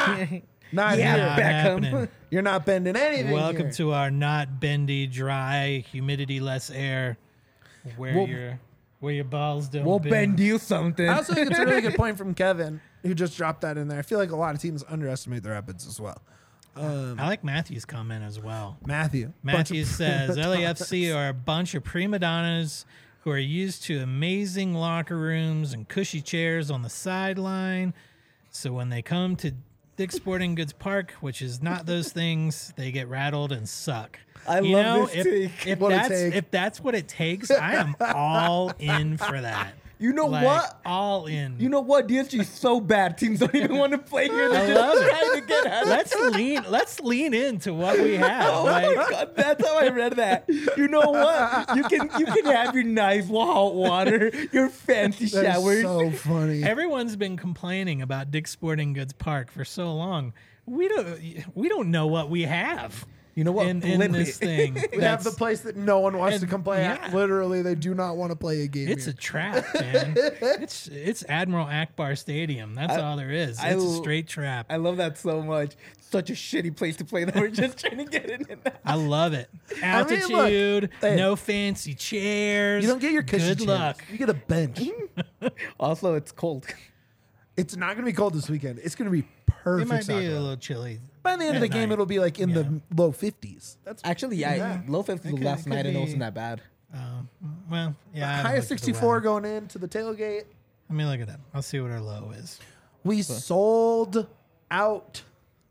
Not yeah, here. Not Beckham. happening. You're not bending anything. Welcome here. to our not bendy, dry, humidity less air, where We'll- your where your balls don't. We'll bend. bend you something. I also think it's a really good point from Kevin, who just dropped that in there. I feel like a lot of teams underestimate the Rapids as well. Um, I like Matthew's comment as well. Matthew. bunch Matthew of- says L A F C are a bunch of prima donnas who are used to amazing locker rooms and cushy chairs on the sideline. So when they come to Dick's Sporting Goods Park, which is not those things, they get rattled and suck. I you love know, this if, take. if What a that's take. if that's what it takes, I am all in for that. You know Like, what? All in. You know what? D S G is so bad. Teams don't even want to play here. They're I just love it. trying to get at it. let's lean. Let's lean into what we have. Oh Like, my god, that's how I read that. You know what? You can you can have your nice hot water, your fancy That is showers. so funny. everyone's been complaining about Dick's Sporting Goods Park for so long. We don't. We don't know what we have. You know what? In, in Flip this it. thing, we have the That's- place that no one wants to and- come play at. yeah. Literally, they do not want to play a game It's a here. trap, man. it's it's Admiral Akbar Stadium. That's I- all there is. I It's a l- straight trap. I love that so much. Such a shitty place to play that we're just trying to get in. I love it. I mean, look, Altitude, hey, no fancy chairs. You don't get your cushy good chairs. luck. You get a bench. Also, it's cold. It's not going to be cold this weekend. It's going to be perfect. It might be soccer a weather. little chilly. By the end of at the game, night. it'll be like in Yeah. the low fifties. That's Actually, yeah, Yeah. low fifties It could- last it night could and it be- wasn't that bad. Um, well, yeah. I haven't highest looked at the sixty-four weather. going into the tailgate. Let me look it up. I'll see what our low is. We sold out.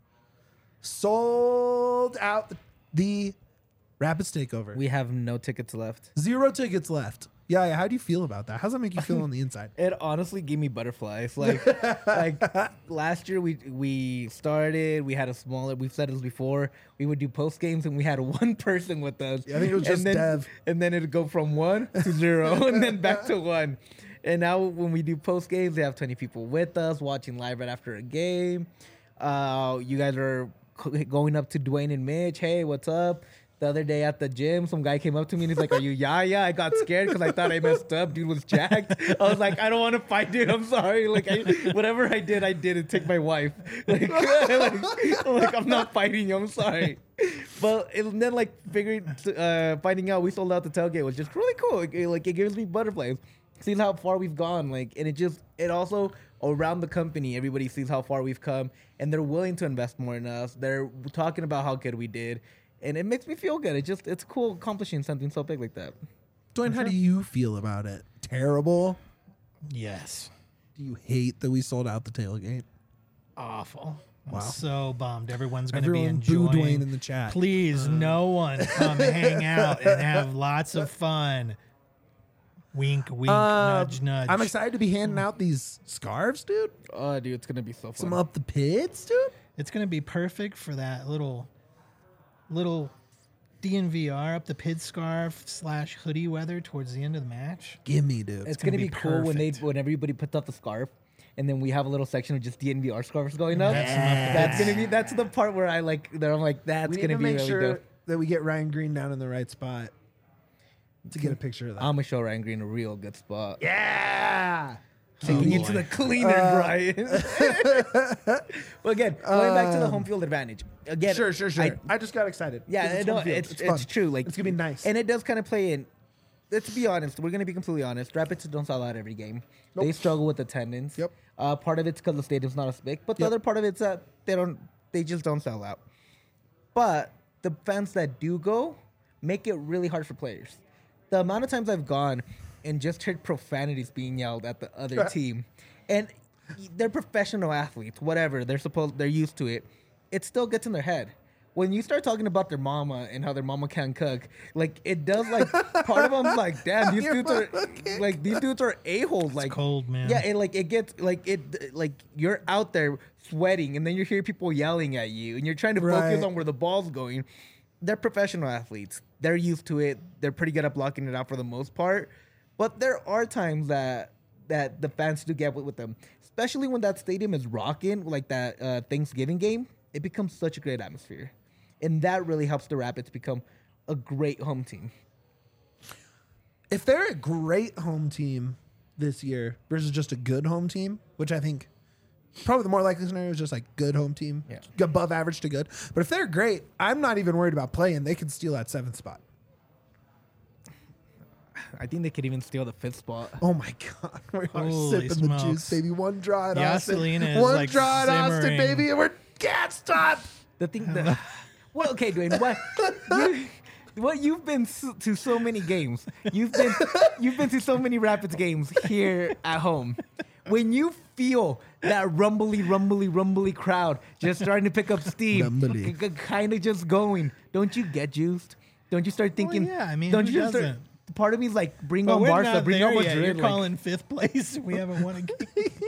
Sold out the, the Rapids takeover. We have no tickets left. Zero tickets left. Yeah, yeah. How do you feel about that? How does that make you feel on the inside? It honestly gave me butterflies. Like, like last year we we started. We had a smaller. We've said this before. We would do post games and we had one person with us. Yeah, I think it was just and then, Dev. And then it'd go from one to zero, and then back to one. And now when we do post games, they have twenty people with us watching live right after a game. Uh, you guys are c- going up to Dwayne and Mitch. Hey, what's up? The other day at the gym, some guy came up to me and he's like, "Are you Yaya?" I got scared because I thought I messed up. Dude was jacked. I was like, "I don't want to fight, dude. I'm sorry. Like, I, whatever I did, I did. It take my wife. Like, like, like, I'm not fighting you. I'm sorry." But and then like figuring, uh, finding out we sold out the tailgate was just really cool. It, like it gives me butterflies. Sees how far we've gone. Like, and it just it also around the company, everybody sees how far we've come, and they're willing to invest more in us. They're talking about how good we did. And it makes me feel good. It just it's cool accomplishing something so big like that. Dwayne, how do you feel about it? Terrible? Yes. Do you hate that we sold out the tailgate? Awful. I'm Wow. so bummed. Everyone's going to be Everyone boo enjoying. Dwayne in the chat. Please, no one come hang out and have lots of fun. Wink, wink, Uh, nudge, nudge. I'm excited to be handing out these scarves, dude. Oh, dude, it's gonna be so fun. Some up the pits, dude. It's going to be perfect for that little, little D N V R up the pid scarf slash hoodie weather towards the end of the match. Give me, dude. it's, gonna gonna, be be, cool when they perfect. when everybody puts up the scarf, and then we have a little section of just D N V R scarves going up. Have some up the That's pits. gonna be that's the part where I like that I'm like that's we need gonna to be make really sure dope. that we get Ryan Green down in the right spot to get a picture of that. I'm gonna show Ryan Green a real good spot. yeah. Taking Oh, you to boy. the cleaner, Uh, Brian. Well, again, going back to the Um, home field advantage. Again, Sure, sure, sure. I- I, just got excited. Yeah, 'Cause I know home field. it's it's, fun. true. Like it's gonna be nice. and it does kind of play in. Let's be honest. We're gonna be completely honest. Rapids don't sell out every game. Nope. They struggle with attendance. Yep. Uh, part of it's because the stadium's not as big, but the Yep. other part of it's that they don't. They just don't sell out. But the fans that do go make it really hard for players. the amount of times I've gone and just heard profanities being yelled at the other team, and they're professional athletes, whatever they're supposed, they're used to it. It still gets in their head. When you start talking about their mama and how their mama can't cook, like it does, like part of them's like, damn, these dudes are like these dudes are a-holes. Like cold, man. Yeah, and like it gets like it like you're out there sweating, and then you hear people yelling at you, and you're trying to Right. focus on where the ball's going. They're professional athletes. They're used to it. They're pretty good at blocking it out for the most part. But there are times that that the fans do get with, with them, especially when that stadium is rocking, like that uh, Thanksgiving game. It becomes such a great atmosphere. And that really helps the Rapids become a great home team. If they're a great home team this year versus just a good home team, which I think probably the more likely scenario is just like good home team, Yeah. above average to good. But if they're great, I'm not even worried about playing. They can steal that seventh spot. I think they could even steal the fifth spot. Oh my God. We are Holy sipping the smokes. juice, baby. One draw at Austin. Yaselina is One like draw at Austin, simmering. baby. And we're can't stop. The thing that, well, okay, Dwayne, what, you, what you've been so, to so many games. You've been, you've been to so many Rapids games here at home. When you feel that rumbly, rumbly, rumbly crowd just starting to pick up steam, Rumbly. kind of just going, don't you get juiced? Don't you start thinking? yeah, I mean, don't who you just start? doesn't? Part of me is like, bring But on we're Barca, not bring there on yet. Madrid. You're like- calling fifth place. We haven't won a game.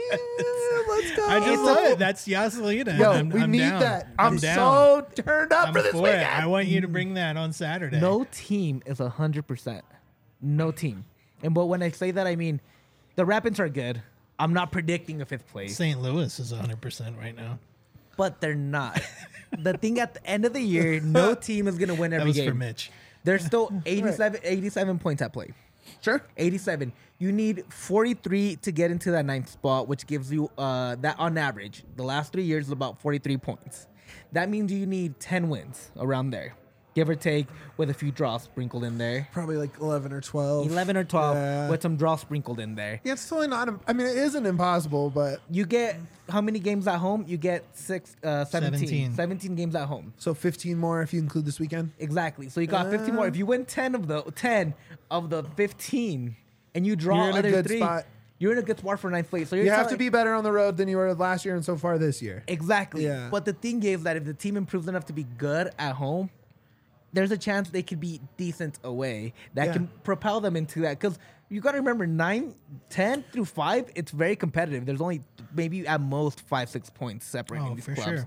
Let's go. I just love it. That's Yaselina. Yo, I'm, we I'm need down. that. I'm, down. so turned up I'm for this for weekend. it. I want you to bring that on Saturday. No team is one hundred percent. No team. And but when I say that, I mean the Rapids are good. I'm not predicting a fifth place, Saint Louis is one hundred percent right now. but they're not. The thing at the end of the year, no team is going to win That every was game. for Mitch. There's still eighty-seven, eighty-seven points at play. Sure. eighty-seven. You need forty-three to get into that ninth spot, which gives you uh, that on average. The last three years is about forty-three points. That means you need ten wins around there, give or take, with a few draws sprinkled in there. Probably like eleven or twelve. eleven or twelve Yeah. with some draws sprinkled in there. Yeah, it's totally not. I mean, it isn't impossible, but You get how many games at home? You get six, uh, seventeen. seventeen. seventeen games at home. so fifteen more if you include this weekend. Exactly. So you got fifteen more. If you win ten of the ten of the fifteen, and you draw You're in a other good three, spot. you're in a good spot for ninth place. So you're You have telling- to be better on the road than you were last year and so far this year. exactly. Yeah. But the thing is that if the team improves enough to be good at home, there's a chance they could be decent away. That Yeah. can propel them into that. Because you got to remember, nine, ten through five, it's very competitive. There's only maybe at most five, six points separating Oh, these for clubs. sure.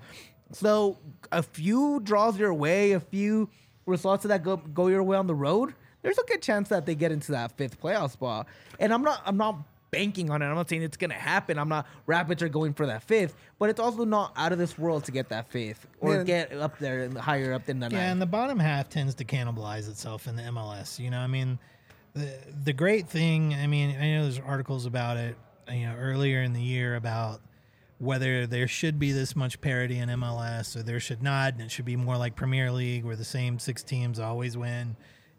So a few draws your way, a few results that go go your way on the road, there's a good chance that they get into that fifth playoff spot. And I'm not I'm not banking on it. I'm not saying it's gonna happen. I'm not Rapids are going for that fifth, but it's also not out of this world to get that fifth or Man. get up there and higher up than the Yeah, ninth. and the bottom half tends to cannibalize itself in the M L S. You know, I mean, the the great thing. I mean, I know there's articles about it. You know, earlier in the year about whether there should be this much parity in M L S or there should not, and it should be more like Premier League where the same six teams always win.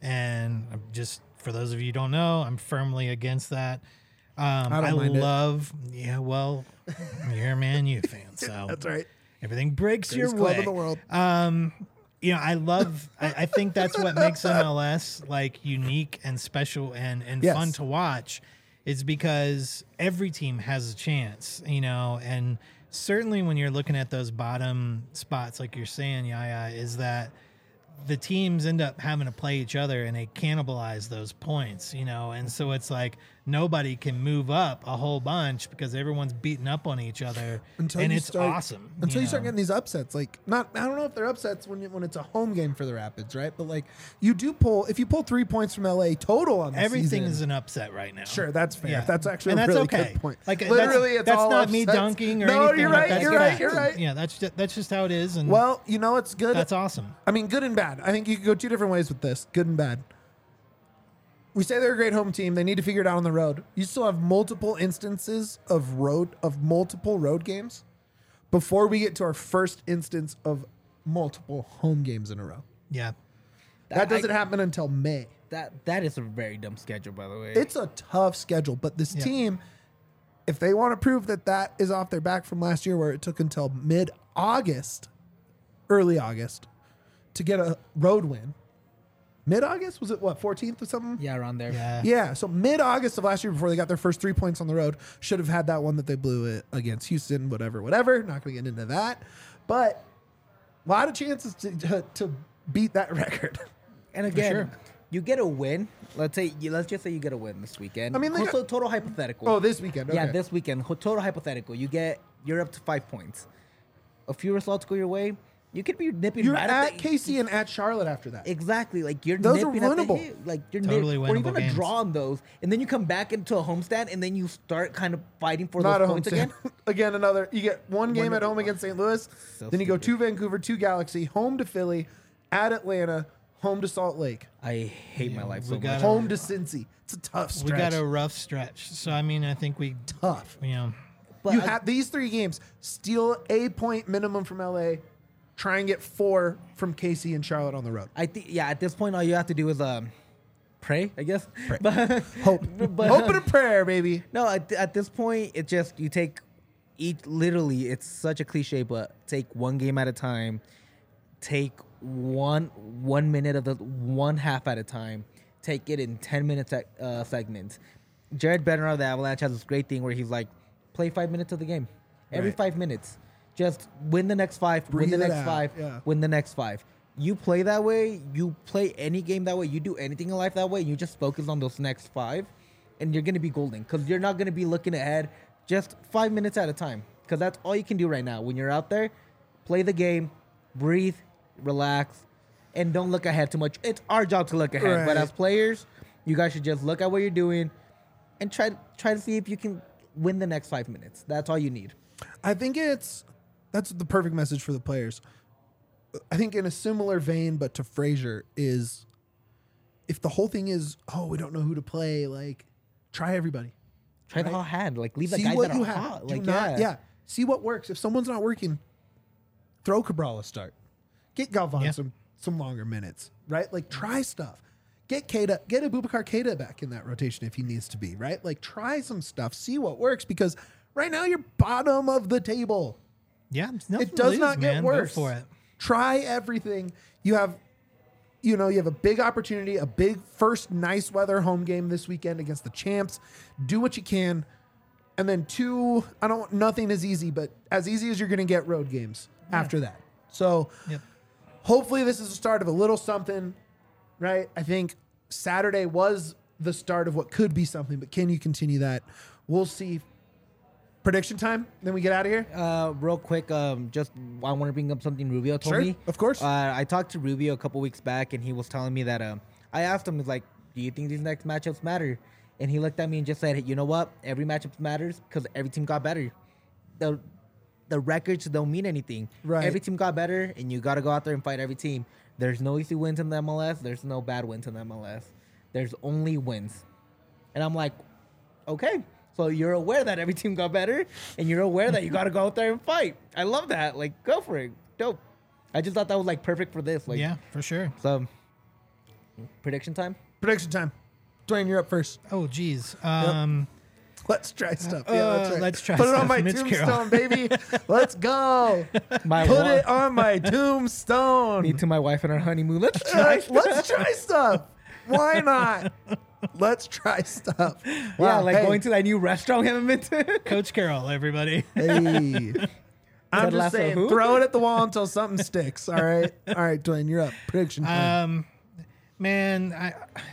And I'm just for those of you who don't know, I'm firmly against that. Um, I I, don't mind it. love, yeah. Well, you're a Man U fan, so That's right. everything breaks Greatest your club way. in the world. Um, you know, I love. I, I think that's what makes M L S like unique and special and and Yes. fun to watch, is because every team has a chance. You know, and certainly when you're looking at those bottom spots, like you're saying, Yaya, is that the teams end up having to play each other and they cannibalize those points, you know, and so it's like nobody can move up a whole bunch because everyone's beating up on each other, Until and you it's start- awesome Until you, start know? getting these upsets, like not, I don't know if they're upsets when you, when it's a home game for the Rapids, right? But like you do pull, if you pull three points from L A total on the Everything season, is an upset right now. sure, that's fair. Yeah. That's actually and a that's really okay. good point. Like literally, that's, it's that's all not me upsets. dunking or no, anything. you're like, right. that's You're right. fact. You're right. Yeah, that's just, that's just how it is, and Well, you know it's good. that's awesome. I mean, good and bad. I think you could go two different ways with this. Good and bad. We say they're a great home team. They need to figure it out on the road. You still have multiple instances of road of multiple road games before we get to our first instance of multiple home games in a row. Yeah, That doesn't I- happen until May. That that is a very dumb schedule, by the way. It's a tough schedule, but this Yeah. team, if they want to prove that that is off their back from last year, where it took until mid-August, early August, to get a road win, mid-August. Was it what fourteenth or something? Yeah, around there. Yeah. Yeah, so mid-August of last year, before they got their first three points on the road, should have had that one that they blew it against Houston. Whatever, whatever. Not going to get into that, but a lot of chances to to, to beat that record. And again, sure. you get a win. Let's say you let's just say you get a win this weekend. I mean, they also got- total hypothetical. Oh, this weekend. Okay. Yeah, this weekend. Ho- Total hypothetical. You get you're up to five points. A few results go your way. You could be nipping You're right at the, K C and at Charlotte after that. Exactly. Like you're Those are nipping at the winnable. hit. Like you're Totally nip, or even winnable a games. draw on those, and then you come back into a homestand, and then you start kind of fighting for Not a those home points stand. again. Again, another. You get one game One- at home against Saint Louis. So then you go stupid. to Vancouver, to Galaxy, home to Philly, at Atlanta, home to Salt Lake, I hate my Yeah, life we so much. gotta- home to Cincy. It's a tough We stretch. got a rough stretch. So, I mean, I think we, tough. you know, But you I- have these three games. Steal a point minimum from L A. Try and get four from K C and Charlotte on the road. I think yeah. At this point, all you have to do is um, pray. I guess. But, Hope, but- hope and a prayer, baby. No, at, at this point, it just you take each. Literally, it's such a cliche, but take one game at a time. Take one one minute of the one half at a time. Take it in ten minute sec, uh, segments. Jared Bednar of the Avalanche has this great thing where he's like, play five minutes of the game, every Right. five minutes. Just win the next five, Breathe win the it next out, five, yeah. win the next five. You play that way, you play any game that way, you do anything in life that way, you just focus on those next five, and you're going to be golden because you're not going to be looking ahead just five minutes at a time because that's all you can do right now. When you're out there, play the game, breathe, relax, and don't look ahead too much. It's our job to look ahead, but Right. as players, you guys should just look at what you're doing and try, try to see if you can win the next five minutes. That's all you need. I think it's that's the perfect message for the players. I think in a similar vein, but to Frazier, is if the whole thing is, oh, we don't know who to play, like try everybody. Try the Right. hot hand. Like, leave the See guys what that you are have. hot. Do Like, not- yeah. yeah. See what works. If someone's not working, throw Cabral a start. Get Galvan Yeah. some some longer minutes, right? Like try stuff. Get Keita, get Abubakar Keita back in that rotation if he needs to be, right? Like try some stuff. See what works because right now you're bottom of the table. yeah, it's nothing It to does lose, not get man. worse. Go for it. Try everything. You have, you know, you have a big opportunity, a big first nice weather home game this weekend against the champs. Do what you can, and then two. I don't. Nothing is easy, but as easy as you're going to get road games after that. So Yep. hopefully this is the start of a little something, right? I think Saturday was the start of what could be something, but can you continue that? We'll see. Prediction time, then we get out of here. Uh, real quick, um, just I want to bring up something Rubio told Sure, me. of course. Uh, I talked to Rubio a couple weeks back, and he was telling me that. Um, I asked him, "Is like, do you think these next matchups matter?" And he looked at me and just said, hey, "You know what? Every matchup matters because every team got better. The the records don't mean anything. Right. Every team got better, and you got to go out there and fight every team. There's no easy wins in the M L S. There's no bad wins in the M L S. There's only wins." And I'm like, okay. So you're aware that every team got better, and you're aware that you got to go out there and fight. I love that. Like, go for it. Dope. I just thought that was like perfect for this. Like, Yeah, for sure. So, prediction time. Prediction time. Dwayne, you're up first. Oh, geez. Um, Let's try stuff. Yeah, Uh, that's right. let's try Put it on stuff. my Mitch tombstone, Carroll. baby. Let's go. My Put wa- it on my tombstone. Me to my wife and our honeymoon. Let's try. Let's, let's try stuff. Why not? Let's try stuff. yeah, Wow, like hey, going to that new restaurant we haven't been to. Coach Carroll, everybody. Hey. I'm Ted just Lasso saying, who? throw it at the wall until something sticks. All right. All right, Dwayne, you're up. Prediction time. Um, man, I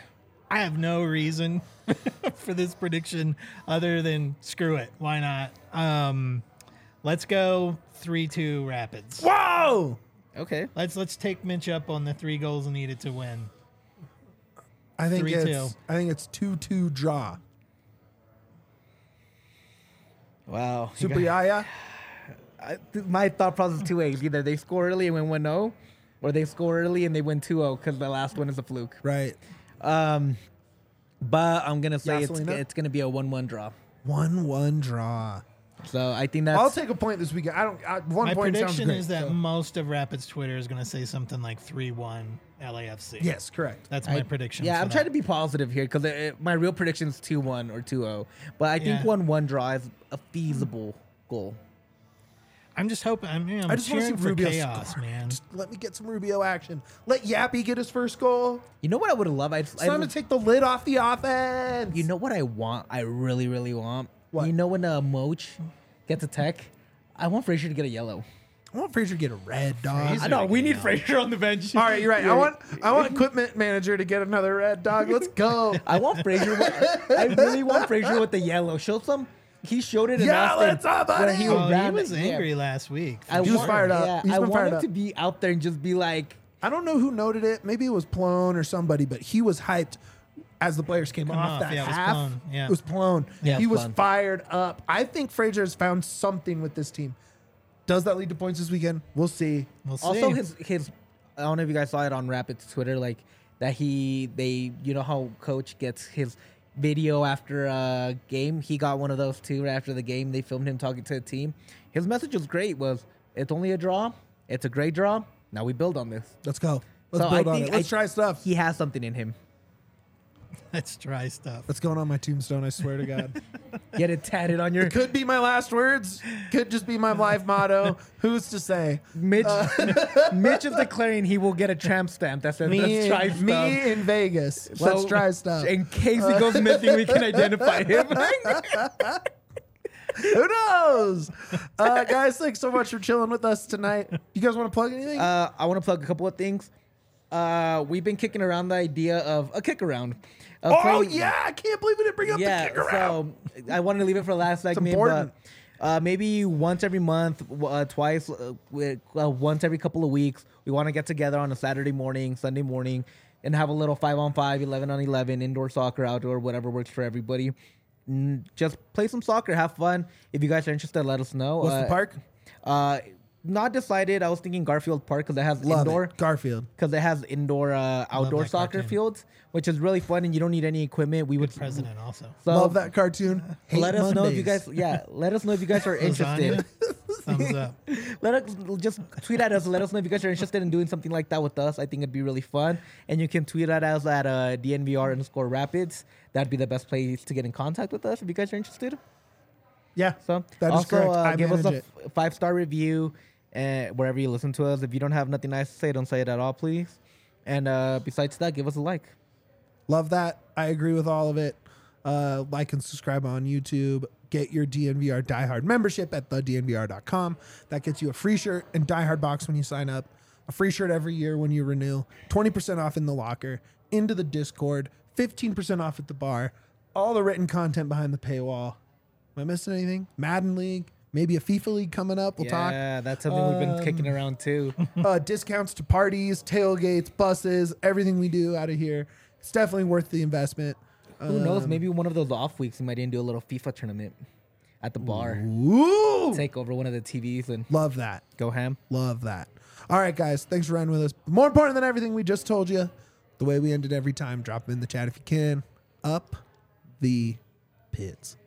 I have no reason for this prediction other than screw it. Why not? Um, let's go three two Rapids. Whoa! Okay. Let's let's take Mitch up on the three goals needed to win. I think three it's two. I think it's two two draw. Wow. You Super got- Yaya. I, th- my thought process is two ways. Either they score early and win one oh, or they score early and they win two oh because the last one is a fluke. Right. Um, but I'm going to say it's, Gasolina? it's going to be a one one draw. one one draw. So I think that's... I'll take a point this weekend. I don't. I, one My point sounds prediction great. is that so- most of Rapids Twitter is going to say something like three one L A F C. Yes, correct. That's my I- prediction. Yeah, for I'm that. trying to be positive here because my real prediction is two one or two oh. But I think Yeah. one one draw is a feasible goal. I'm just hoping. I'm, you know, I'm I just want to see cheering for Rubio chaos, score. man. Just let me get some Rubio action. Let Yappy get his first goal. You know what I would love? I'd, It's time to take the lid off the offense. You know what I want? I really, really want. What? You know when uh, Moch gets a tech, I want Frazier to get a yellow. I want Frazier to get a red, dog. Frazier. I know we need Yeah. Frazier on the bench. All right, you're right. I want I want equipment manager to get another red, dog. Let's go. I want Frazier. with- I really want Frazier with the yellow. Show some. He showed it in Yeah, Austin let's up, where buddy. he Oh, he ran- was yeah. angry last week. I He was want- fired up. Yeah, He's I been want fired him up. to be out there and just be like, I don't know who noted it. Maybe it was Plone or somebody, but he was hyped as the players came Come off, off, that yeah, it was half. Plone, yeah. It was Plone. Yeah, it he was was Plone. fired up. I think Frazier has found something with this team. Does that lead to points this weekend? We'll see. We'll see. also his his. I don't know if you guys saw it on Rapid's Twitter, like that he they you know how coach gets his video after a game. He got one of those too right after the game. They filmed him talking to the team. His message was great. Was it's only a draw. It's a great draw. Now we build on this. Let's go. Let's So build I on think it. Let's I- try stuff. He has something in him. That's dry stuff. That's going on my tombstone, I swear to God. Get it tatted on your. Could be my last words. Could just be my life motto. Who's to say? Mitch, Mitch is declaring he will get a tramp stamp that says Me, let's try stuff. me in Vegas. So, Let's try stuff. In case he goes missing, we can identify him. Who knows? Uh, guys, thanks so much for chilling with us tonight. You guys want to plug anything? Uh, I want to plug a couple of things. Uh, we've been kicking around the idea of a kick around. Of oh, playing- yeah. I can't believe we didn't bring up yeah. the kick around. So I wanted to leave it for last segment, important. but uh, maybe once every month, uh, twice, uh, with, uh, once every couple of weeks, we want to get together on a Saturday morning, Sunday morning, and have a little five on five, eleven on eleven, indoor soccer, outdoor, whatever works for everybody. Mm, Just play some soccer, have fun. If you guys are interested, let us know. What's uh, the park? Uh, not decided. I was thinking Garfield Park because it has Love indoor. it. Garfield. Because it has indoor, uh, outdoor that soccer cartoon. fields, which is really fun, and you don't need any equipment. We would President also. So Love that cartoon. Hate let us know if you Mondays. guys, yeah, let us know if you guys are Lasagna. interested. Thumbs up. Let us just tweet at us. Let us know if you guys are interested in doing something like that with us. I think it'd be really fun. And you can tweet at us at uh, D N V R underscore Rapids. That'd be the best place to get in contact with us if you guys are interested. Yeah. So That is also correct. uh, I give us a manage f- five star review uh, wherever you listen to us. If you don't have nothing nice to say, don't say it at all, please. And uh, besides that, give us a like. Love that. I agree with all of it. Uh, like and subscribe on YouTube. Get your D N V R Diehard membership at the D N V R dot com. That gets you a free shirt and Diehard box when you sign up. A free shirt every year when you renew. twenty percent off in the locker. Into the Discord. fifteen percent off at the bar. All the written content behind the paywall. Am I missing anything? Madden League. Maybe a FIFA League coming up. We'll talk. Yeah, that's something we've been kicking around too. uh, discounts to parties, tailgates, buses, everything we do out of here. It's definitely worth the investment. Who knows? Um, Maybe one of those off weeks we might even do a little FIFA tournament at the bar. Ooh, Take over one of the T Vs and love that. go ham. Love that. All right, guys. Thanks for running with us. More important than everything we just told you, the way we ended every time, drop them in the chat if you can. Up the pits.